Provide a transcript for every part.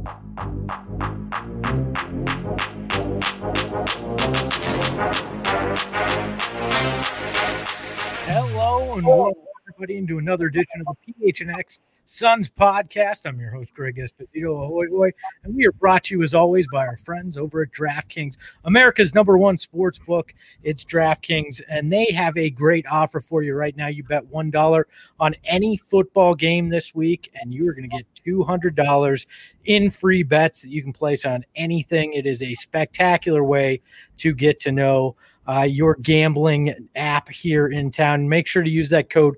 Hello and welcome everybody into another edition of the PHNX Suns podcast. I'm your host, Greg Esposito, ahoy hoy, and we are brought to you as always by our friends over at DraftKings, America's #1 sports book. It's DraftKings, and they have a great offer for you right now. You bet $1 on any football game this week, and you are going to get $200 in free bets that you can place on anything. It is a spectacular way to get to know your gambling app here in town. Make sure to use that code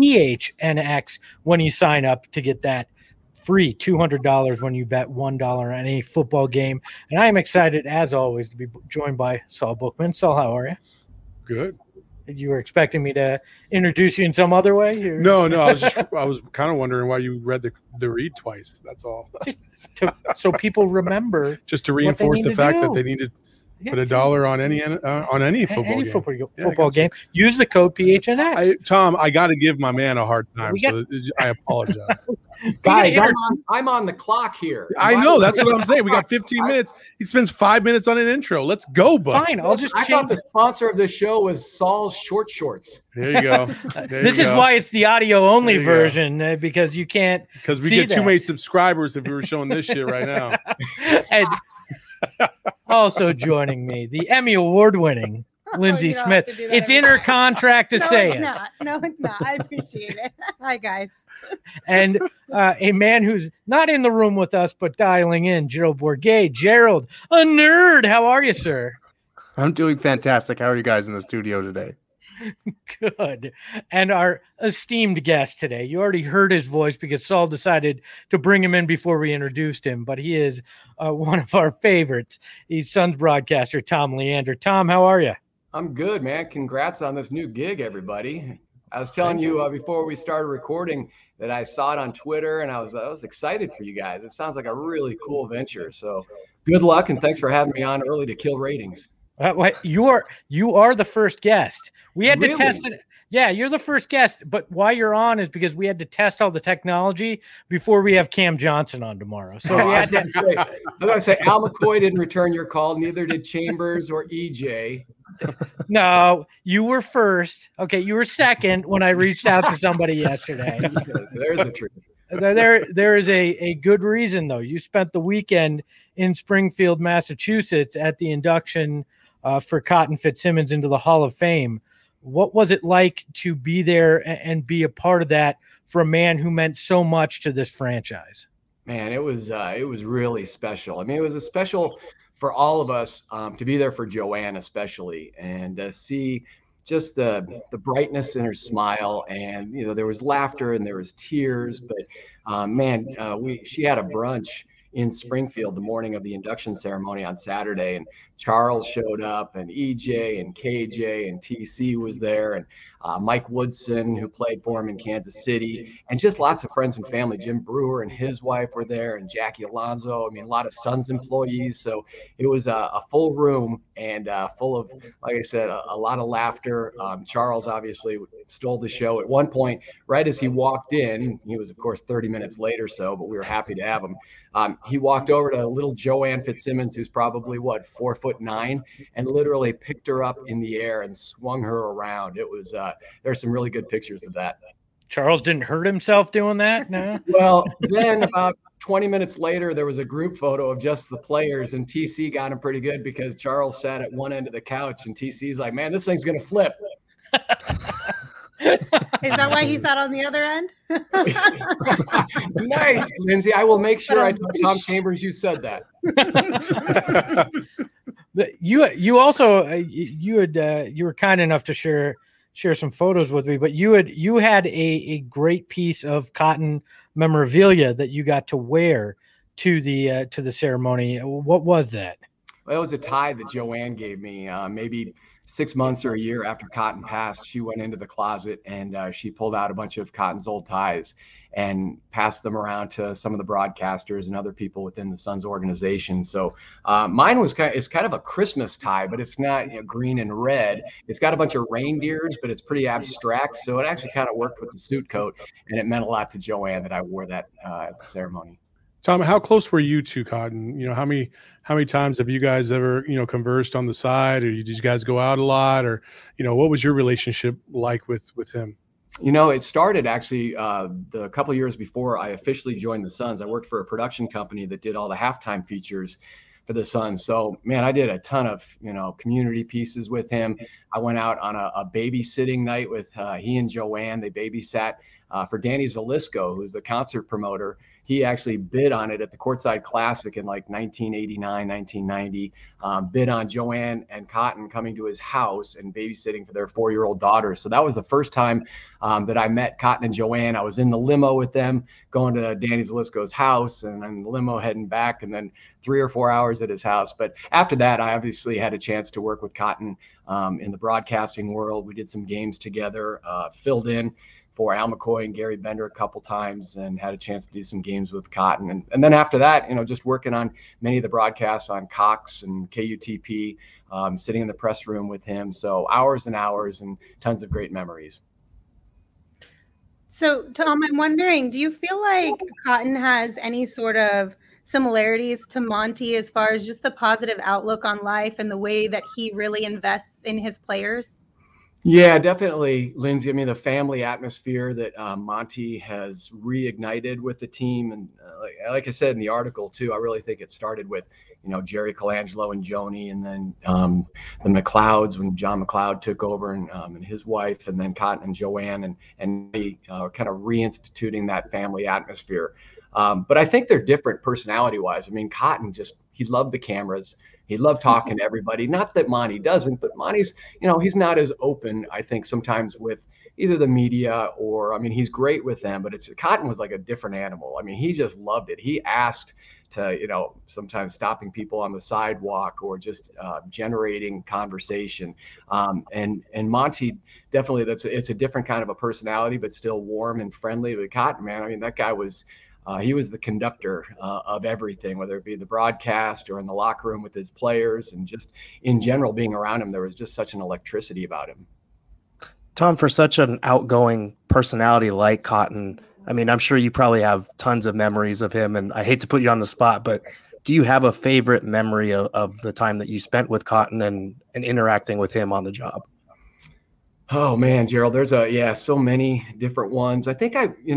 PHNX when you sign up to get that free $200 when you bet $1 on any football game. And I am excited, as always, to be joined by Saul Bookman. Saul, how are you? Good. You were expecting me to introduce you in some other way? No. I was kind of wondering why you read the read twice. That's all. So people remember. Just to reinforce the fact that they need to put $1 on any football game. Use the code PHNX. Tom, I got to give my man a hard time, so I apologize. Guys, I'm on the clock here. I know. That's what I'm saying. We got 15 minutes. He spends 5 minutes on an intro. Let's go, bud. Fine. I thought the sponsor of the show was Saul's Short Shorts. There you go. This is why it's the audio-only version, because you can't Because we get too many subscribers if we were showing this shit right now. And also joining me, the Emmy Award-winning Lindsay Smith. It's in her contract to say it. No, it's not. I appreciate it. Hi, guys. And a man who's not in the room with us, but dialing in, Gerald Bourguet. Gerald, a nerd. How are you, sir? I'm doing fantastic. How are you guys in the studio today? Good. And our esteemed guest today, you already heard his voice because Saul decided to bring him in before we introduced him, but he is one of our favorites. He's Suns broadcaster Tom Leander. Tom, how are you? I'm good, man. Congrats on this new gig, everybody. I was telling you before we started recording that I saw it on Twitter, and I was excited for you guys. It sounds like a really cool venture. So good luck, and thanks for having me on early to kill ratings. You are the first guest. We had to test it. Yeah, you're the first guest, but why you're on is because we had to test all the technology before we have Cam Johnson on tomorrow. So we had to. I was going to say Al McCoy didn't return your call. Neither did Chambers or EJ. No, you were first. Okay, you were second when I reached out to somebody yesterday. There's the truth. There is a good reason, though. You spent the weekend in Springfield, Massachusetts at the induction for Cotton Fitzsimmons into the Hall of Fame. What was it like to be there and be a part of that for a man who meant so much to this franchise? Man, it was really special. I mean, it was a special for all of us to be there for Joanne especially, and see just the brightness in her smile. And there was laughter and there was tears, but she had a brunch in Springfield the morning of the induction ceremony on Saturday, and Charles showed up, and EJ and KJ and TC was there, and Mike Woodson, who played for him in Kansas City, and just lots of friends and family. Jim Brewer and his wife were there, and Jackie Alonso. I mean, a lot of Suns employees. So it was a full room and full of, like I said, a lot of laughter. Charles obviously stole the show at one point. Right as he walked in, he was, of course, 30 minutes late or so, but we were happy to have him. He walked over to little Joanne Fitzsimmons, who's probably 4'9", and literally picked her up in the air and swung her around. It was there's some really good pictures of that. Charles didn't hurt himself doing that? No. Well, then about 20 minutes later, there was a group photo of just the players, and TC got him pretty good because Charles sat at one end of the couch, and TC's like, "Man, this thing's gonna flip." Is that why he sat on the other end? Nice, Lindsay. I will make sure I tell Tom Chambers you said that. You were kind enough to share some photos with me, but you had a great piece of cotton memorabilia that you got to wear to the ceremony. What was that? Well, it was a tie that Joanne gave me, maybe 6 months or a year after Cotton passed. She went into the closet and she pulled out a bunch of Cotton's old ties and passed them around to some of the broadcasters and other people within the Suns organization. So mine was it's kind of a Christmas tie, but it's not green and red. It's got a bunch of reindeers, but it's pretty abstract. So it actually kind of worked with the suit coat, and it meant a lot to Joanne that I wore that at the ceremony. Tom, how close were you to Cotton? How many times have you guys ever, conversed on the side, or did you guys go out a lot, or, what was your relationship like with him? It started actually the couple of years before I officially joined the Suns. I worked for a production company that did all the halftime features for the Suns. So, man, I did a ton of, community pieces with him. I went out on a babysitting night with he and Joanne. They babysat for Danny Zelisko, who's the concert promoter. He actually bid on it at the Courtside Classic in like 1989, 1990, bid on Joanne and Cotton coming to his house and babysitting for their 4-year-old daughter. So that was the first time that I met Cotton and Joanne. I was in the limo with them going to Danny Zelisko's house, and then the limo heading back, and then 3 or 4 hours at his house. But after that, I obviously had a chance to work with Cotton in the broadcasting world. We did some games together, filled in for Al McCoy and Gary Bender a couple times, and had a chance to do some games with Cotton. And then after that, just working on many of the broadcasts on Cox and KUTP, sitting in the press room with him. So hours and hours and tons of great memories. So, Tom, I'm wondering, do you feel like Cotton has any sort of similarities to Monty as far as just the positive outlook on life and the way that he really invests in his players? Yeah, definitely, Lindsay. I mean, the family atmosphere that Monty has reignited with the team. And like I said in the article, too, I really think it started with, Jerry Colangelo and Joni, and then the McLeods when John McLeod took over, and his wife, and then Cotton and Joanne, and kind of reinstituting that family atmosphere. But I think they're different personality-wise. I mean, Cotton he loved the cameras. He loved talking to everybody. Not that Monty doesn't, but Monty's, he's not as open, I think, sometimes with either the media or, he's great with them, but Cotton was like a different animal. I mean, he just loved it. He asked to, sometimes stopping people on the sidewalk or just generating conversation. And Monty, definitely, it's a different kind of a personality, but still warm and friendly. But Cotton, man, that guy was, he was the conductor of everything, whether it be the broadcast or in the locker room with his players, and just in general being around him, there was just such an electricity about him. Tom, for such an outgoing personality like Cotton, I'm sure you probably have tons of memories of him, and I hate to put you on the spot, but do you have a favorite memory of the time that you spent with Cotton and interacting with him on the job? Oh man, Gerald, there's so many different ones. I think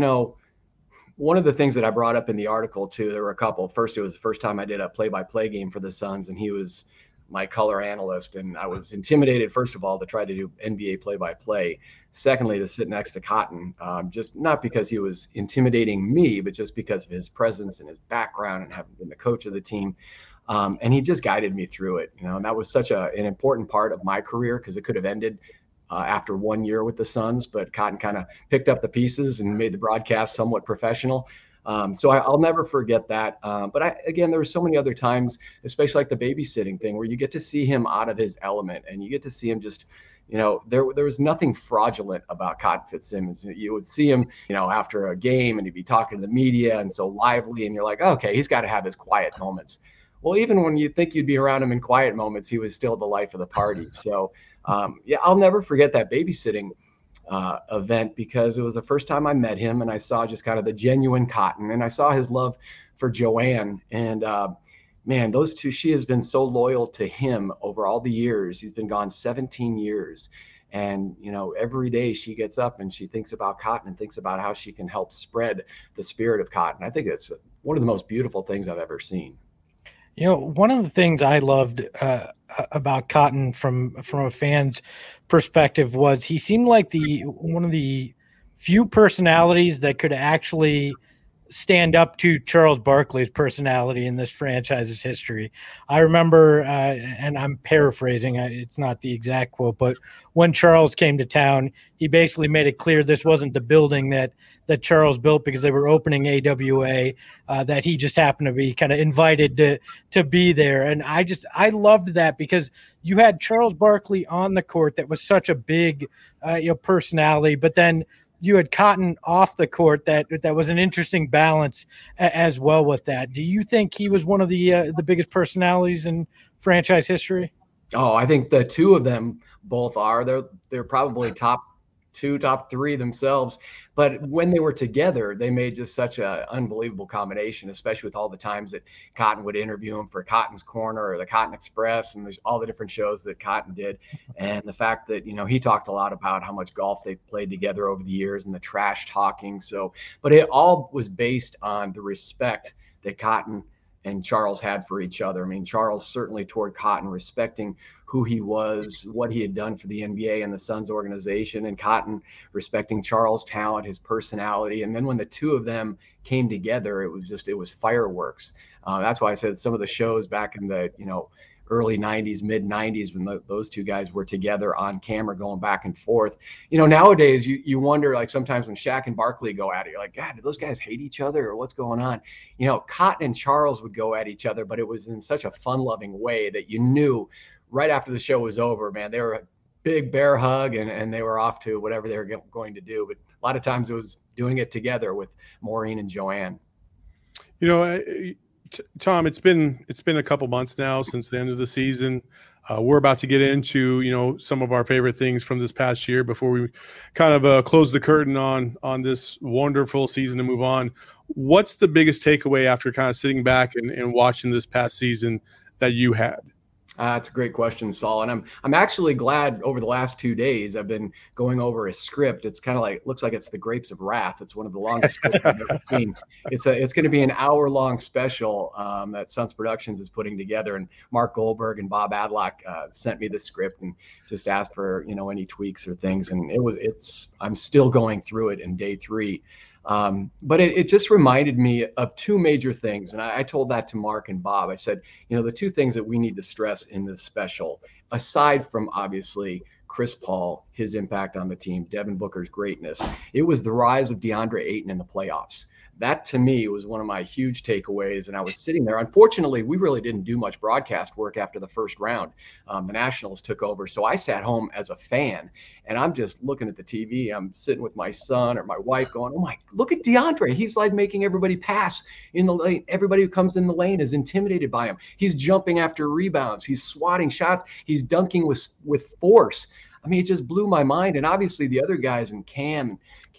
one of the things that I brought up in the article too, there were a couple. First, it was the first time I did a play-by-play game for the Suns, and he was my color analyst, and I was intimidated, first of all, to try to do NBA play-by-play. Secondly, to sit next to Cotton, just not because he was intimidating me, but just because of his presence and his background and having been the coach of the team. And he just guided me through it, and that was such an important part of my career, because it could have ended after 1 year with the Suns, but Cotton kind of picked up the pieces and made the broadcast somewhat professional. So I'll never forget that. But there were so many other times, especially like the babysitting thing, where you get to see him out of his element, and you get to see him just, there was nothing fraudulent about Cotton Fitzsimmons. You would see him, after a game, and he'd be talking to the media and so lively, and you're like, okay, he's got to have his quiet moments. Well, even when you think you'd be around him in quiet moments, he was still the life of the party. So I'll never forget that babysitting event, because it was the first time I met him, and I saw just kind of the genuine Cotton, and I saw his love for Joanne. And man, those two, she has been so loyal to him over all the years. He's been gone 17 years. And, every day she gets up and she thinks about Cotton and thinks about how she can help spread the spirit of Cotton. I think it's one of the most beautiful things I've ever seen. One of the things I loved about Cotton from a fan's perspective was he seemed like one of the few personalities that could actually stand up to Charles Barkley's personality in this franchise's history. I remember, and I'm paraphrasing, it's not the exact quote, but when Charles came to town, he basically made it clear this wasn't the building that Charles built because they were opening AWA, that he just happened to be kind of invited to be there. And I loved that, because you had Charles Barkley on the court that was such a big personality, but then you had Cotton off the court that was an interesting balance as well with that. Do you think he was one of the biggest personalities in franchise history? Oh, I think the two of them both are. They're probably top top 3 themselves. But when they were together, they made just such an unbelievable combination, especially with all the times that Cotton would interview him for Cotton's Corner or the Cotton Express, and there's all the different shows that Cotton did. And the fact that, he talked a lot about how much golf they played together over the years and the trash talking. So, but it all was based on the respect that Cotton and Charles had for each other. I mean, Charles certainly toward Cotton, respecting who he was, what he had done for the NBA and the Suns organization, and Cotton respecting Charles' talent, his personality. And then when the two of them came together, it was fireworks. That's why I said some of the shows back in the, early 90s, mid 90s, when those two guys were together on camera going back and forth. Nowadays you wonder, like sometimes when Shaq and Barkley go at it, you're like, God, do those guys hate each other or what's going on? Cotton and Charles would go at each other, but it was in such a fun loving way that you knew right after the show was over, man, they were a big bear hug and they were off to whatever they were going to do. But a lot of times it was doing it together with Maureen and Joanne. Tom, it's been a couple months now since the end of the season. We're about to get into, some of our favorite things from this past year before we kind of close the curtain on this wonderful season and move on. What's the biggest takeaway after kind of sitting back and watching this past season that you had? That's a great question, Saul. And I'm actually glad over the last 2 days I've been going over a script. It's kind of looks like it's the Grapes of Wrath. It's one of the longest scripts I've ever seen. It's going to be an hour-long special that Suns Productions is putting together. And Mark Goldberg and Bob Adlock sent me the script and just asked for any tweaks or things. And I'm still going through it in day 3. But it just reminded me of 2 major things. And I told that to Mark and Bob. I said, the 2 things that we need to stress in this special, aside from obviously Chris Paul, his impact on the team, Devin Booker's greatness, it was the rise of DeAndre Ayton in the playoffs. That to me was one of my huge takeaways. And I was sitting there. Unfortunately, we really didn't do much broadcast work after the first round. The Nationals took over. So I sat home as a fan and I'm just looking at the TV. I'm sitting with my son or my wife going, oh my, look at DeAndre. He's like making everybody pass in the lane. Everybody who comes in the lane is intimidated by him. He's jumping after rebounds. He's swatting shots. He's dunking with force. I mean, it just blew my mind. And obviously the other guys in Cam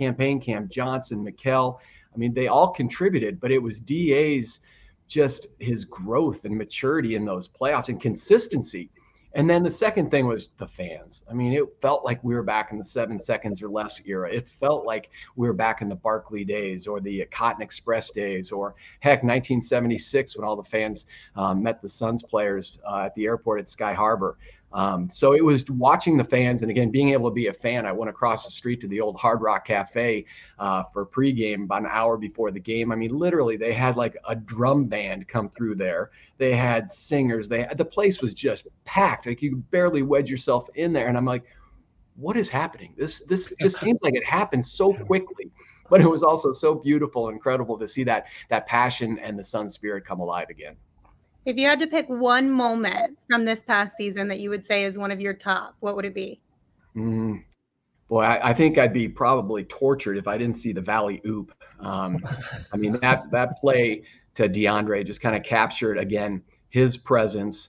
Johnson, Mikal, I mean, they all contributed, but it was DA's just his growth and maturity in those playoffs and consistency. And then the second thing was the fans. I mean, it felt like we were back in the 7 seconds or less era. It felt like we were back in the Barkley days or the Cotton Express days or, heck, 1976 when all the fans met the Suns players at the airport at Sky Harbor. So it was watching the fans and, again, being able to be a fan. I went across the street to the old Hard Rock Cafe for pregame about an hour before the game. I mean, literally, they had like a drum band come through there. They had singers. The place was just packed. Like you could barely wedge yourself in there. And I'm like, what is happening? This just seems like it happened so quickly. But it was also so beautiful and incredible to see that passion and the Sun spirit come alive again. If you had to pick one moment from this past season that you would say is one of your top, what would it be? Boy, I think I'd be probably tortured if I didn't see the Valley Oop. I mean, that play to DeAndre just kind of captured, again, his presence,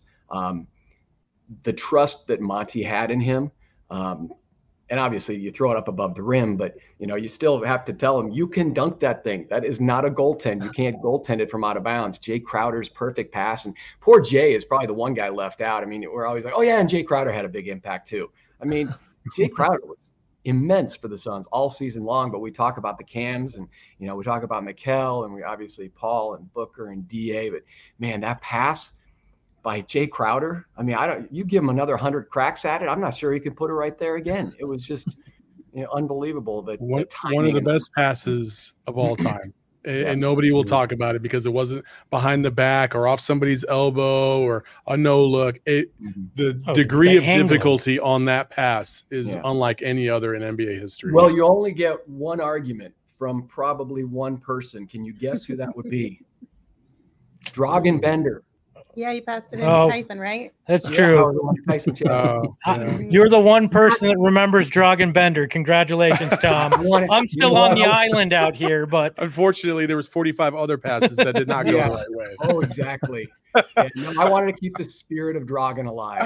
the trust that Monty had in him. And obviously you throw it up above the rim, but you still have to tell him you can dunk that thing. That is not a goaltend. You can't goaltend it from out of bounds. Jay Crowder's perfect pass, and poor Jay is probably the one guy left out. I mean, we're always like, oh yeah, and Jay Crowder had a big impact too. I mean, Jay Crowder was immense for the Suns all season long, but we talk about the Cams and, we talk about Mikal and we obviously Paul and Booker and DA, but man, that pass by Jay Crowder. I mean, you give him another 100 cracks at it, I'm not sure he could put it right there again. It was just unbelievable. One of the best passes of all time. And nobody will talk about it because it wasn't behind the back or off somebody's elbow or a no look. The degree of difficulty on that pass is unlike any other in NBA history. Well, you only get one argument from probably one person. Can you guess who that would be? Dragan Bender. Yeah, you passed it in to Tyson, right? That's true. Tyson You're the one person that remembers Dragan Bender. Congratulations, Tom. I'm still on the island out here, but unfortunately, there was 45 other passes that did not go the right way. Oh, exactly. Yeah, no, I wanted to keep the spirit of Dragan alive.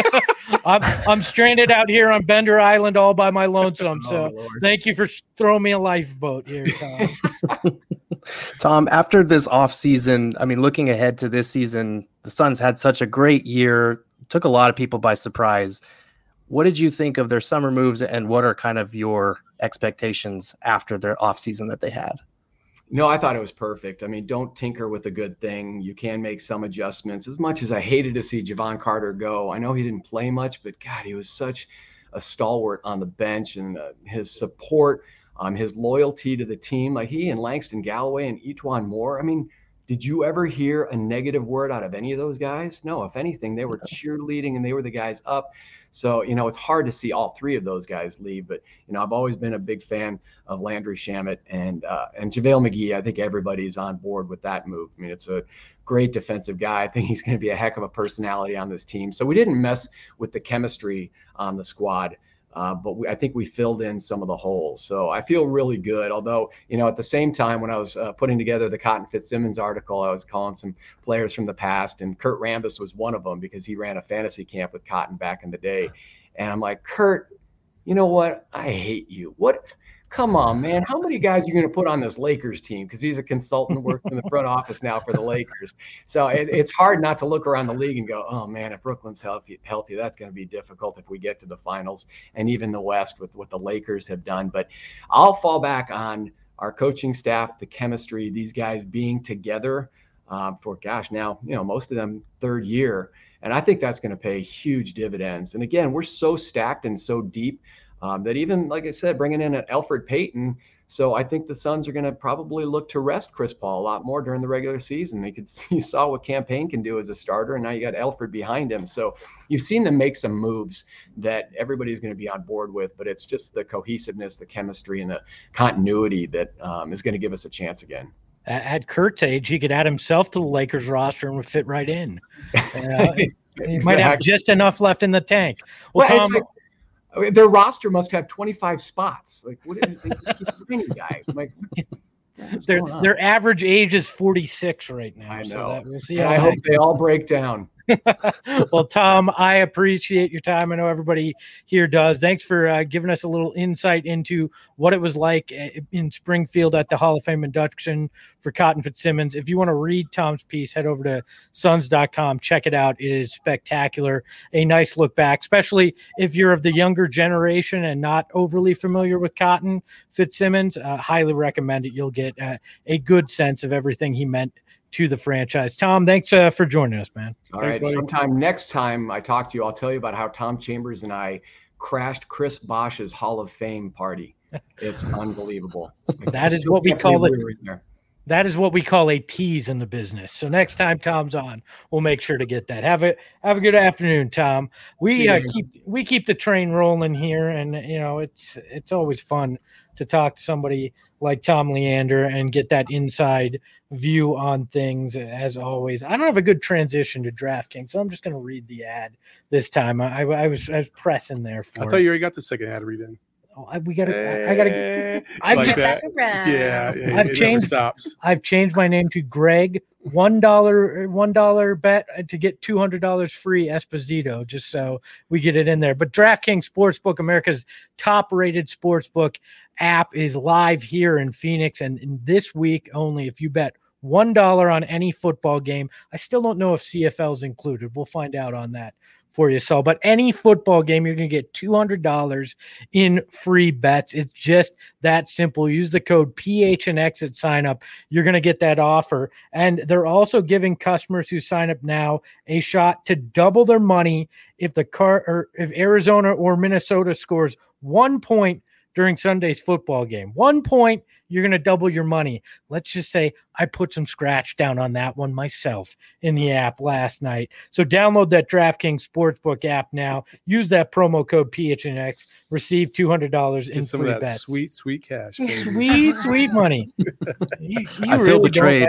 I'm stranded out here on Bender Island all by my lonesome. So thank you for throwing me a lifeboat here, Tom. Tom, after this offseason, I mean, looking ahead to this season, the Suns had such a great year, took a lot of people by surprise. What did you think of their summer moves, and what are kind of your expectations after their offseason that they had? No, I thought it was perfect. I mean, don't tinker with a good thing. You can make some adjustments. As much as I hated to see Javon Carter go, I know he didn't play much, but God, he was such a stalwart on the bench, and his support, his loyalty to the team, like he and Langston Galloway and E'Twaun Moore. I mean, did you ever hear a negative word out of any of those guys? No, if anything, they were cheerleading and they were the guys up. So, it's hard to see all three of those guys leave, but, I've always been a big fan of Landry Shamet and JaVale McGee. I think everybody's on board with that move. I mean, it's a great defensive guy. I think he's going to be a heck of a personality on this team. So we didn't mess with the chemistry on the squad. But I think we filled in some of the holes. So I feel really good. Although, at the same time, when I was putting together the Cotton Fitzsimmons article, I was calling some players from the past, and Kurt Rambis was one of them because he ran a fantasy camp with Cotton back in the day. And I'm like, Kurt, you know what? I hate you. What? Come on, man. How many guys are you going to put on this Lakers team? Because he's a consultant, works in the front office now for the Lakers. So it's hard not to look around the league and go, oh, man, if Brooklyn's healthy, that's going to be difficult if we get to the finals, and even the West with what the Lakers have done. But I'll fall back on our coaching staff, the chemistry, these guys being together for, now, most of them third year. And I think that's going to pay huge dividends. And again, we're so stacked and so deep that even, like I said, bringing in an Elfrid Payton. So I think the Suns are going to probably look to rest Chris Paul a lot more during the regular season. You saw what Cam Payne can do as a starter, and now you got Elfrid behind him. So you've seen them make some moves that everybody's going to be on board with, but it's just the cohesiveness, the chemistry, and the continuity that is going to give us a chance again. At Kurt's age, he could add himself to the Lakers roster and would fit right in. He might have just enough left in the tank. Well, Tom, their roster must have 25 spots. Like, what they keep signing guys? I'm like, their average age is 46 right now. I know. So we'll see. I hope they all break down. Well, Tom, I appreciate your time. I know everybody here does. Thanks for giving us a little insight into what it was like in Springfield at the Hall of Fame induction for Cotton Fitzsimmons. If you want to read Tom's piece, head over to Suns.com. Check it out. It is spectacular. A nice look back, especially if you're of the younger generation and not overly familiar with Cotton Fitzsimmons. Highly recommend it. You'll get a good sense of everything he meant to the franchise. Tom, thanks for joining us, man. All thanks, right. buddy. Sometime next time I talk to you, I'll tell you about how Tom Chambers and I crashed Chris Bosh's Hall of Fame party. It's unbelievable. That is what we call it. That is what we call a tease in the business. So next time Tom's on, we'll make sure to get that. Have a good afternoon, Tom. We keep the train rolling here, and it's always fun to talk to somebody like Tom Leander and get that inside view on things. As always, I don't have a good transition to DraftKings, so I'm just going to read the ad this time. I was pressing there for. I thought you already got the second ad to read in. Oh, I gotta. I've changed. I've changed my name to Greg. $1 bet to get $200 free Esposito, just so we get it in there. But DraftKings Sportsbook, America's top-rated sportsbook app, is live here in Phoenix, and in this week only, if you bet $1 on any football game, I still don't know if CFL is included. We'll find out on that for you. So, but any football game, you're going to get $200 in free bets. It's just that simple. Use the code PHNX at sign up. You're going to get that offer. And they're also giving customers who sign up now a shot to double their money if if Arizona or Minnesota scores 1 point during Sunday's football game. 1 point, you're going to double your money. Let's just say I put some scratch down on that one myself in the app last night. So download that DraftKings Sportsbook app now. Use that promo code PHNX. Receive $200 in some free of that bets. sweet cash. Sweet, sweet money. I feel betrayed.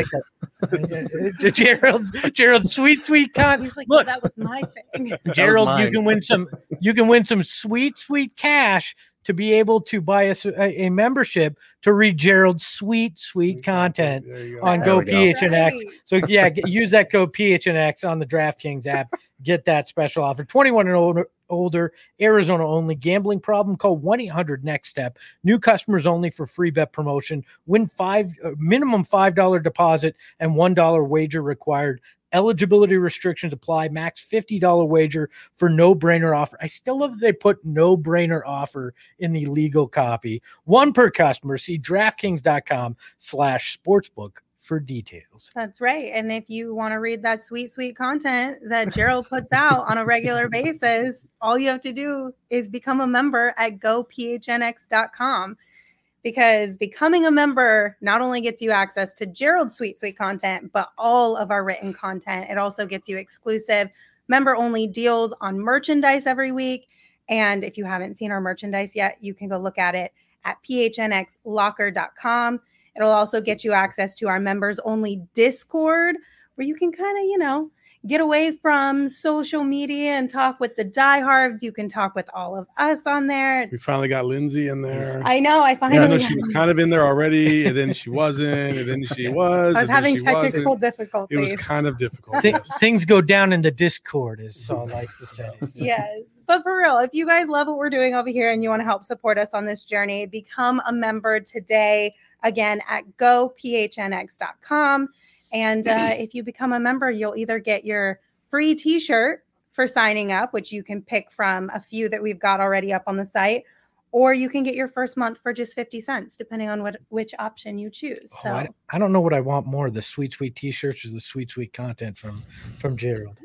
Gerald's sweet content. He's like, Look, that was my thing. Gerald, mine. you can win some sweet cash to be able to buy a membership to read Gerald's sweet content There you go. on There Go we go. PHNX. Right. So yeah, use that code PHNX on the DraftKings app. Get that special offer. 21 and older, Arizona only. Gambling problem? Call 1-800-NEXT-STEP. New customers only for free bet promotion. Win minimum $5 deposit and $1 wager required. Eligibility restrictions apply. Max $50 wager for no-brainer offer. I still love that they put no-brainer offer in the legal copy. One per customer. See DraftKings.com/sportsbook for details. That's right. And if you want to read that sweet content that Gerald puts out on a regular basis, all you have to do is become a member at gophnx.com. Because becoming a member not only gets you access to Gerald's sweet content, but all of our written content. It also gets you exclusive member-only deals on merchandise every week. And if you haven't seen our merchandise yet, you can go look at it at phnxlocker.com. It'll also get you access to our members-only Discord, where you can kind of, get away from social media and talk with the diehards. You can talk with all of us on there. We finally got Lindsay in there. I know. I Yeah, I finally. know she was kind of in there already, and then she wasn't, and then she was. I was and then having she technical wasn't. difficulties. It was kind of difficult. Th- Yes. Things go down in the Discord, as Saul likes to say. Yes. But for real, if you guys love what we're doing over here and you want to help support us on this journey, become a member today, again, at gophnx.com. And if you become a member, you'll either get your free t-shirt for signing up, which you can pick from a few that we've got already up on the site, or you can get your first month for just 50 cents, depending on which option you choose. So I don't know what I want more, the sweet t-shirts or the sweet content from Gerald.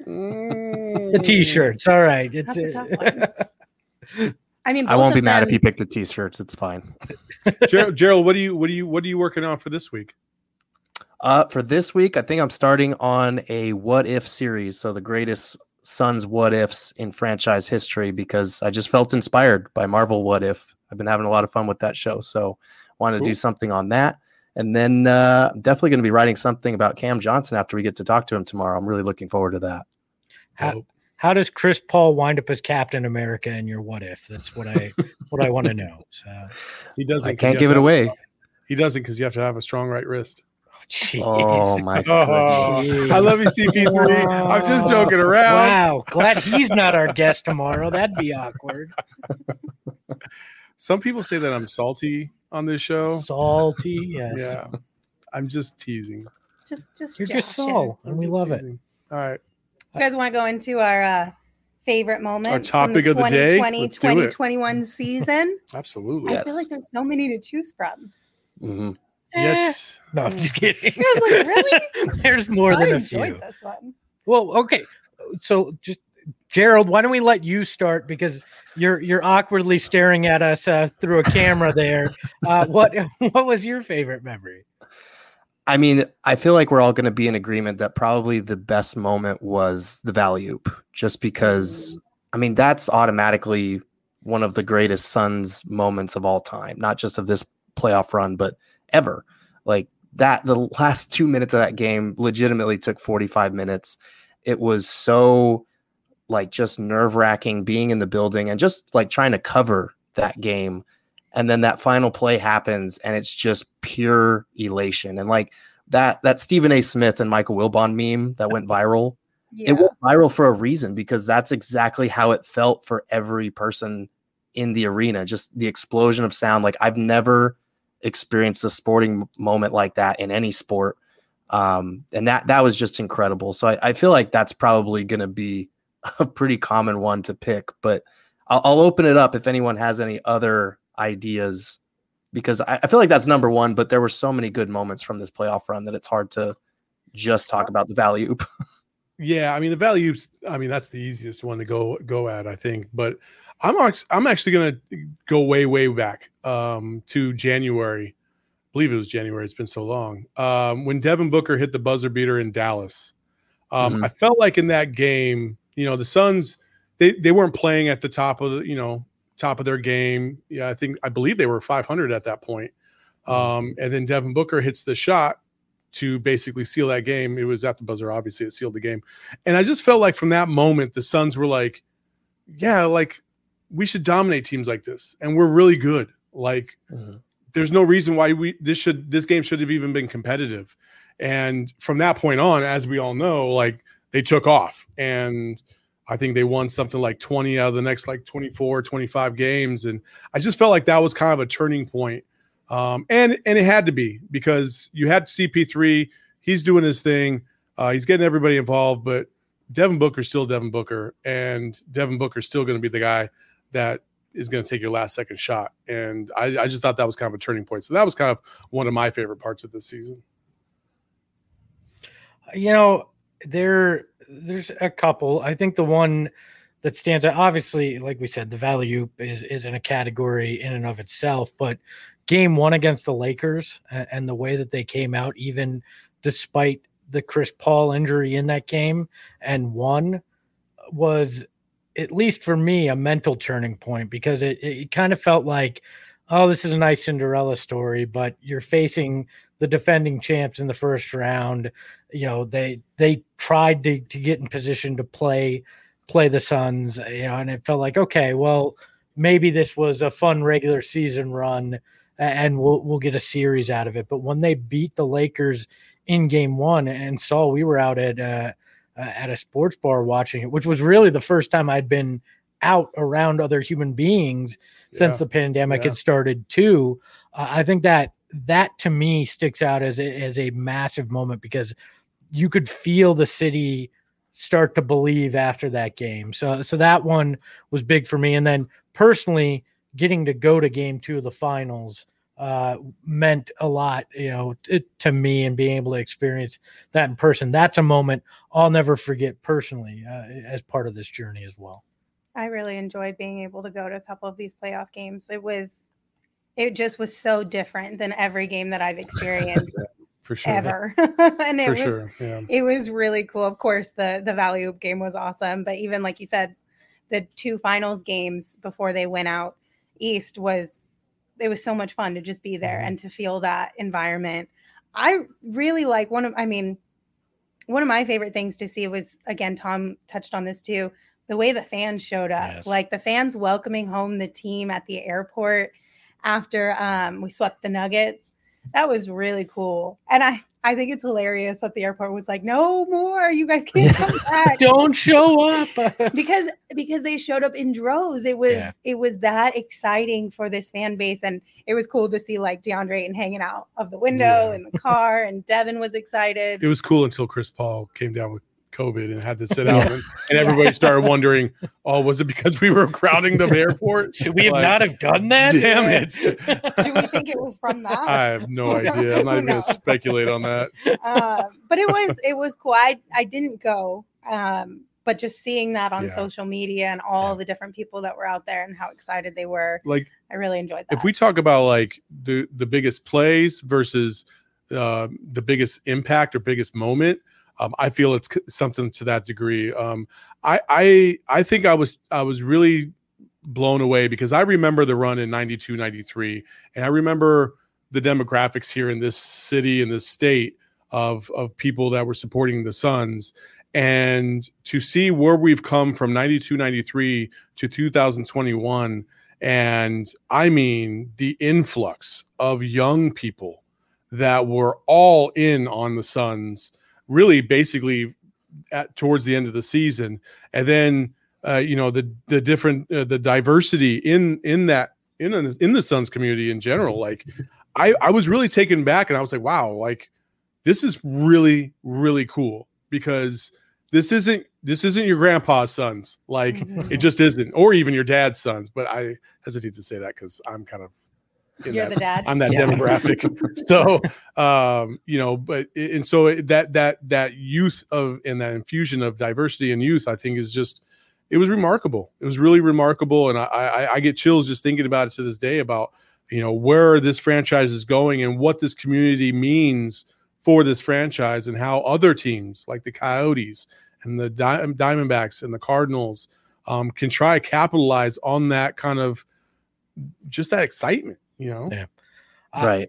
The t-shirts. All right. That's a tough one. I mean, I won't be mad if them- you pick the t-shirts. It's fine. Gerald, what are you working on for this week? For this week, I think I'm starting on a what if series. So the greatest Suns what ifs in franchise history, because I just felt inspired by Marvel What If. I've been having a lot of fun with that show. So wanted to do something on that. And then I'm definitely going to be writing something about Cam Johnson after we get to talk to him tomorrow. I'm really looking forward to that. How does Chris Paul wind up as Captain America in your what if? That's what I want to know. So He doesn't. I can't give it away. He doesn't because you have to have a strong right wrist. Jeez. Oh my Oh, goodness. I love you, CP3. I'm just joking around. Wow. Glad he's not our guest tomorrow. That'd be awkward. Some people say that I'm salty on this show. Salty, yes. Yeah, I'm just teasing. just You're just joshing. Saul, and we I'm love just it. teasing. All right. You guys want to go into our favorite moments? topic from of the day? 2020, Let's do it. 2021 season? Absolutely. I feel like there's so many to choose from. Mhm. Yes. No, I'm just kidding. I was like, really? There's more I than a enjoyed few. this one. Well, okay. So just Gerald, why don't we let you start, because you're awkwardly staring at us through a camera there. What was your favorite memory? I mean, I feel like we're all going to be in agreement that probably the best moment was the Valley Oop, just because, I mean, that's automatically one of the greatest Suns moments of all time, not just of this playoff run, but ever. Like that, the last 2 minutes of that game legitimately took 45 minutes. It was so like just nerve-wracking being in the building and just like trying to cover that game. And then that final play happens and it's just pure elation. And like that Stephen A. Smith and Michael Wilbon meme that went viral, Yeah. it went viral for a reason, because that's exactly how it felt for every person in the arena. Just the explosion of sound. Like I've never experienced a sporting moment like that in any sport. And that was just incredible. So I feel like that's probably going to be a pretty common one to pick, but I'll open it up if anyone has any other ideas, because I feel like that's number one, but there were so many good moments from this playoff run that it's hard to just talk about the Valley Oop. Yeah, I mean the Valley Oops. I mean that's the easiest one to go at, I think. But I'm actually going to go way back to January. I believe it was January. It's been so long. When Devin Booker hit the buzzer beater in Dallas. I felt like in that game, the Suns, they weren't playing at the top of their game. Yeah, I believe they were 500 at that point. And then Devin Booker hits the shot to basically seal that game. It was at the buzzer, obviously it sealed the game. And I just felt like from that moment, the Suns were like, yeah, like we should dominate teams like this. And we're really good. Like there's no reason why this game should have even been competitive. And from that point on, as we all know, like they took off, and I think they won something like 20 out of the next like 24, 25 games. And I just felt like that was kind of a turning point. And it had to be, because you had CP3, he's doing his thing. He's getting everybody involved, but Devin Booker's still Devin Booker, and Devin Booker's still going to be the guy that is going to take your last second shot. And I just thought that was kind of a turning point. So that was kind of one of my favorite parts of this season. There's a couple. I think the one that stands out, obviously, like we said, the value is in a category in and of itself, but game one against the Lakers and the way that they came out, even despite the Chris Paul injury in that game, and won, was, at least for me, a mental turning point, because it kind of felt like, oh, this is a nice Cinderella story, but you're facing the defending champs in the first round. They tried to get in position to play the Suns, and it felt like, okay, well, maybe this was a fun regular season run and we'll get a series out of it. But when they beat the Lakers in game one, and Saul, we were out at a sports bar watching it, which was really the first time I'd been out around other human beings since the pandemic had started too. I think that to me sticks out as a massive moment, because you could feel the city start to believe after that game. So that one was big for me. And then personally, getting to go to game two of the finals meant a lot, to me, and being able to experience that in person. That's a moment I'll never forget personally, as part of this journey as well. I really enjoyed being able to go to a couple of these playoff games. It just was so different than every game that I've experienced for sure ever. And it was really cool. Of course, the Valley Oop game was awesome, but even like you said, the two finals games before they went out east was so much fun to just be there and to feel that environment. I really like one of my favorite things to see was, again, Tom touched on this too, the way the fans showed up. Yes. Like the fans welcoming home the team at the airport after we swept the Nuggets. That was really cool. And I think it's hilarious that the airport was like, no more, you guys can't come back. Don't show up. because they showed up in droves. It was that exciting for this fan base. And it was cool to see like DeAndre Ayton hanging out of the window in the car, and Devin was excited. It was cool until Chris Paul came down with COVID and had to sit out, and everybody started wondering, oh, was it because we were crowding the airport? Should we not have done that? Damn it. Do we think it was from that? I have no idea. I'm not even going to speculate on that. But it was cool. I didn't go, but just seeing that on social media and all the different people that were out there and how excited they were, like, I really enjoyed that. If we talk about like the biggest plays versus the biggest impact or biggest moment, I feel it's something to that degree. I think I was really blown away, because I remember the run in 92, 93, and I remember the demographics here in this city, in this state, of people that were supporting the Suns. And to see where we've come from 92, 93 to 2021, and I mean the influx of young people that were all in on the Suns, really basically towards the end of the season. And then the different the diversity in the Suns community in general. Like I was really taken back, and I was like, wow, like this is really, really cool, because this isn't your grandpa's Suns. Like it just isn't, or even your dad's Suns. But I hesitate to say that because I'm kind of You're the dad. I'm that demographic. So, so that youth and that infusion of diversity and youth, I think, is just it was remarkable. It was really remarkable. And I get chills just thinking about it to this day about, where this franchise is going and what this community means for this franchise and how other teams like the Coyotes and the Diamondbacks and the Cardinals can try to capitalize on that kind of just that excitement, Yeah. Right.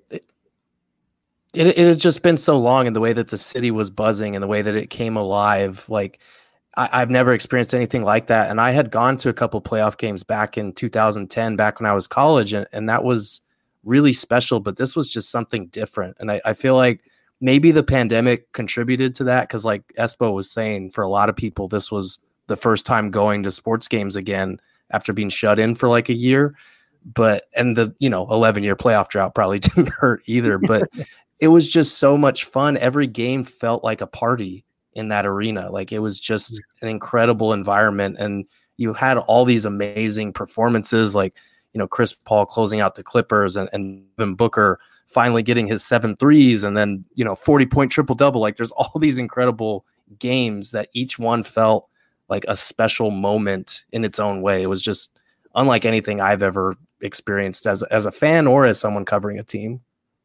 It had just been so long, and the way that the city was buzzing and the way that it came alive, like I've never experienced anything like that. And I had gone to a couple playoff games back in 2010, back when I was college, and that was really special, but this was just something different. And I feel like maybe the pandemic contributed to that, because like Espo was saying, for a lot of people, this was the first time going to sports games again after being shut in for like a year. And the 11-year playoff drought probably didn't hurt either, but it was just so much fun. Every game felt like a party in that arena. Like it was just an incredible environment, and you had all these amazing performances, like Chris Paul closing out the Clippers, and Devin Booker finally getting his 7 threes, and then 40-point triple-double. Like there's all these incredible games that each one felt like a special moment in its own way. It was just unlike anything I've ever experienced as a fan or as someone covering a team.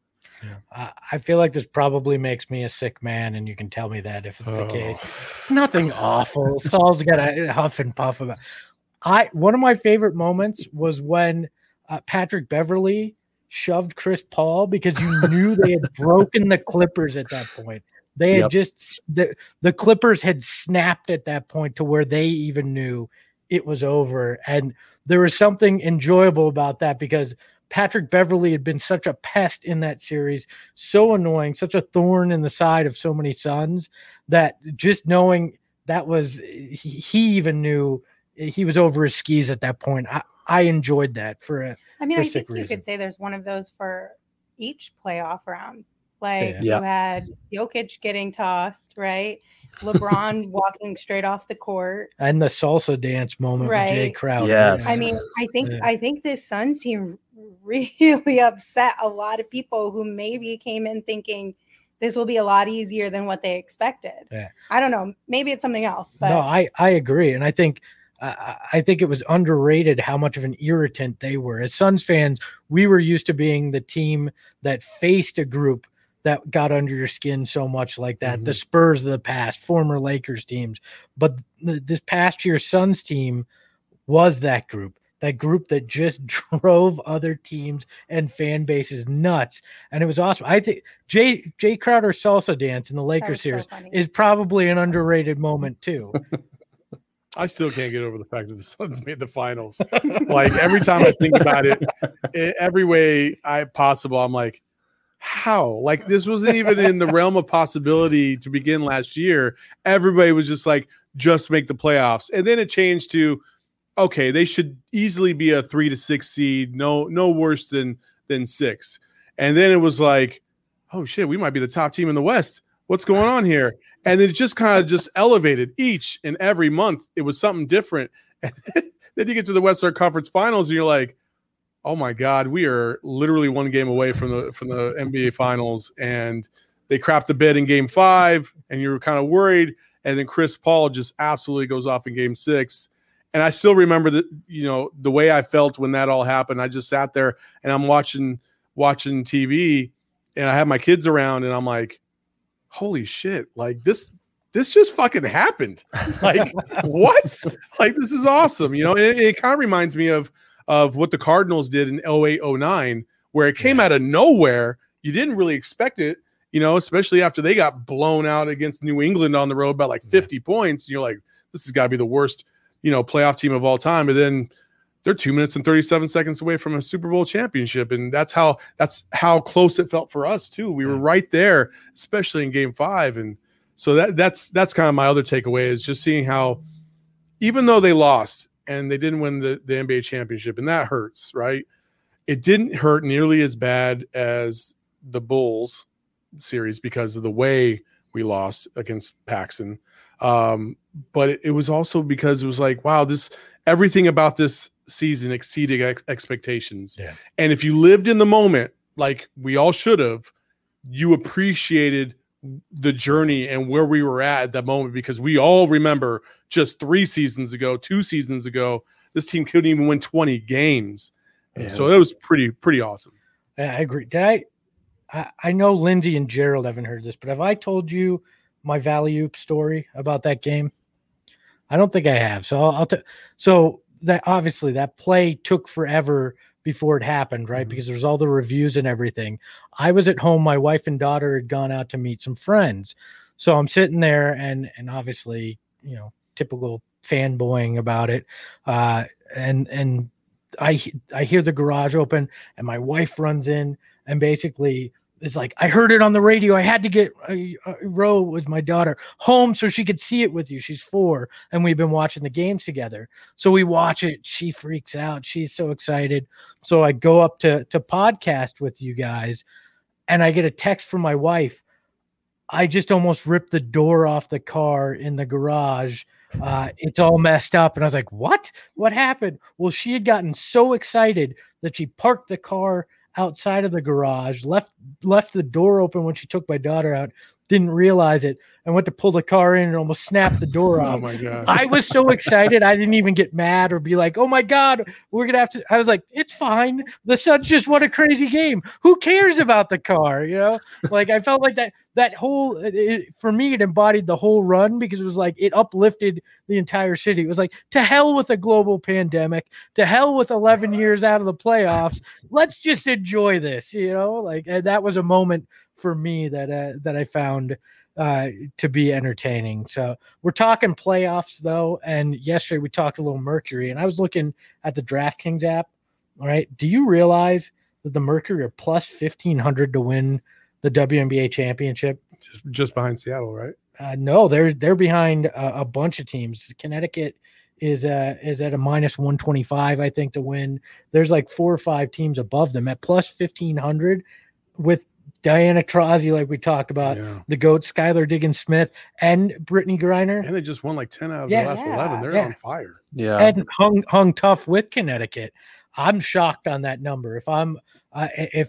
I feel like this probably makes me a sick man, and you can tell me that if it's the case. It's nothing awful. Saul's got a huff and puff about. One of my favorite moments was when Patrick Beverley shoved Chris Paul, because you knew they had broken the Clippers at that point. They had the Clippers had snapped at that point to where they even knew it was over, and there was something enjoyable about that, because Patrick Beverley had been such a pest in that series, so annoying, such a thorn in the side of so many Suns, that just knowing that was, he even knew he was over his skis at that point. I enjoyed that I think you could say there's one of those for each playoff round. Like you had Jokic getting tossed, right? LeBron walking straight off the court, and the salsa dance moment with Jay Crowder. Yes. I think this Suns team really upset a lot of people who maybe came in thinking this will be a lot easier than what they expected. Yeah. I don't know. Maybe it's something else. But no, I agree. And I think it was underrated how much of an irritant they were. As Suns fans, we were used to being the team that faced a group that got under your skin so much like that. Mm-hmm. The Spurs of the past, former Lakers teams. But this past year, Suns team was that group that just drove other teams and fan bases nuts. And it was awesome. I think Jay Crowder salsa dance in the Lakers series is probably an underrated moment too. I still can't get over the fact that the Suns made the finals. Like every time I think about it, every way possible, I'm like, how? Like this wasn't even in the realm of possibility to begin last year. Everybody was just like, just make the playoffs. And then it changed to, okay, they should easily be a 3 to 6 seed, no worse than 6. And then it was like, oh shit, we might be the top team in the West. What's going on here? And it just kind of just elevated each and every month. It was something different. And then you get to the Western Conference Finals and you're like, oh my God, we are literally one game away from the NBA Finals. And they crapped the bed in Game 5, and you're kind of worried. And then Chris Paul just absolutely goes off in Game 6. And I still remember that, the way I felt when that all happened. I just sat there and I'm watching TV, and I have my kids around, and I'm like, holy shit, like this just fucking happened. Like, what? Like, this is awesome. It kind of reminds me of what the Cardinals did in 08-09, where it came out of nowhere. You didn't really expect it, especially after they got blown out against New England on the road by like 50 points. And you're like, this has got to be the worst, playoff team of all time. And then they're 2 minutes and 37 seconds away from a Super Bowl championship. And that's how close it felt for us too. We were right there, especially in Game 5. And so that's kind of my other takeaway, is just seeing how, even though they lost and they didn't win the NBA championship, and that hurts, right? It didn't hurt nearly as bad as the Bulls series because of the way we lost against Paxson. But it was also because it was like, wow, everything about this season exceeded expectations. Yeah. And if you lived in the moment, like we all should have, you appreciated the journey and where we were at that moment, because we all remember just 2 seasons ago, this team couldn't even win 20 games. Yeah. So it was pretty awesome. I agree. I know Lindsay and Gerald haven't heard this, but have I told you my Valley Oop story about that game? I don't think I have. So so that obviously that play took forever before it happened, right? Because there's all the reviews and everything. I was at home. My wife and daughter had gone out to meet some friends. So I'm sitting there and obviously, typical fanboying about it. And I hear the garage open and my wife runs in and basically is like, I heard it on the radio. I had to get Ro with my daughter home so she could see it with you. She's 4 and we've been watching the games together. So we watch it. She freaks out. She's so excited. So I go up to podcast with you guys and I get a text from my wife. I just almost ripped the door off the car in the garage. It's all messed up. And I was like, what happened? Well, she had gotten so excited that she parked the car outside of the garage, left the door open when she took my daughter out, didn't realize it, and went to pull the car in and almost snapped the door off. Oh my gosh. I was so excited. I didn't even get mad or be like, oh my God, we're going to have to. I was like, it's fine. The Suns just won a crazy game. Who cares about the car? Like I felt like that whole, for me, it embodied the whole run because it was like, it uplifted the entire city. It was like, to hell with a global pandemic, to hell with 11 years out of the playoffs. Let's just enjoy this, like, and that was a moment for me that I found to be entertaining. So we're talking playoffs though. And yesterday we talked a little Mercury and I was looking at the DraftKings app. All right. Do you realize that the Mercury are plus 1,500 to win the WNBA championship? Just behind Seattle, right? No, they're behind a bunch of teams. Connecticut is at a minus 125, I think, to win. There's like 4 or 5 teams above them at plus 1,500 with Diana Taurasi, like we talked about, the GOAT, Skylar Diggins-Smith, and Brittany Griner. And they just won like 10 out of the last 11. They're on fire. Yeah. And hung tough with Connecticut. I'm shocked on that number. If I'm, I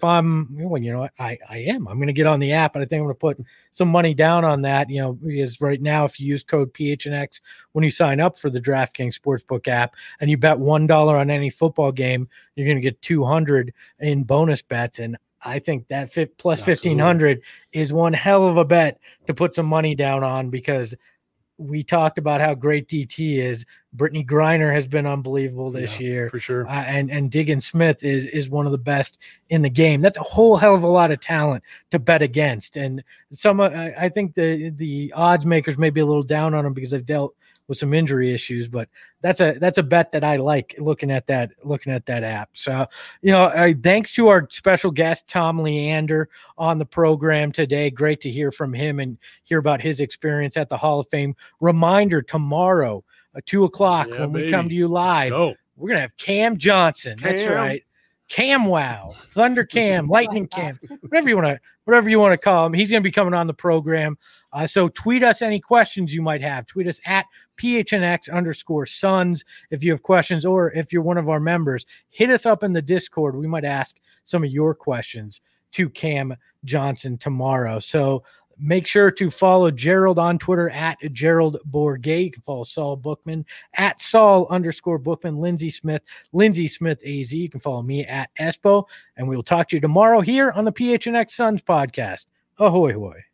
am. I'm going to get on the app, and I think I'm going to put some money down on that. Because right now, if you use code PHNX when you sign up for the DraftKings Sportsbook app, and you bet $1 on any football game, you're going to get $200 in bonus bets. And I think that plus 1,500 is one hell of a bet to put some money down on, because we talked about how great DT is. Brittany Griner has been unbelievable this year. For sure. And Diggins-Smith is one of the best in the game. That's a whole hell of a lot of talent to bet against. And I think the odds makers may be a little down on them because they've dealt with some injury issues, but that's a bet that I like looking at that app. So, thanks to our special guest, Tom Leander, on the program today. Great to hear from him and hear about his experience at the Hall of Fame. Reminder, tomorrow at 2:00 when we come to you live, we're going to have Cam Johnson. That's right. Cam Wow, Thunder Cam, Lightning Cam, whatever you want to call him. He's going to be coming on the program. So tweet us any questions you might have. Tweet us at PHNX_Suns if you have questions, or if you're one of our members, hit us up in the Discord. We might ask some of your questions to Cam Johnson tomorrow. So make sure to follow Gerald on Twitter at Gerald Bourget. You can follow Saul Bookman at Saul_Bookman, Lindsay Smith AZ. You can follow me at Espo, and we will talk to you tomorrow here on the PHNX Suns podcast. Ahoy, hoy.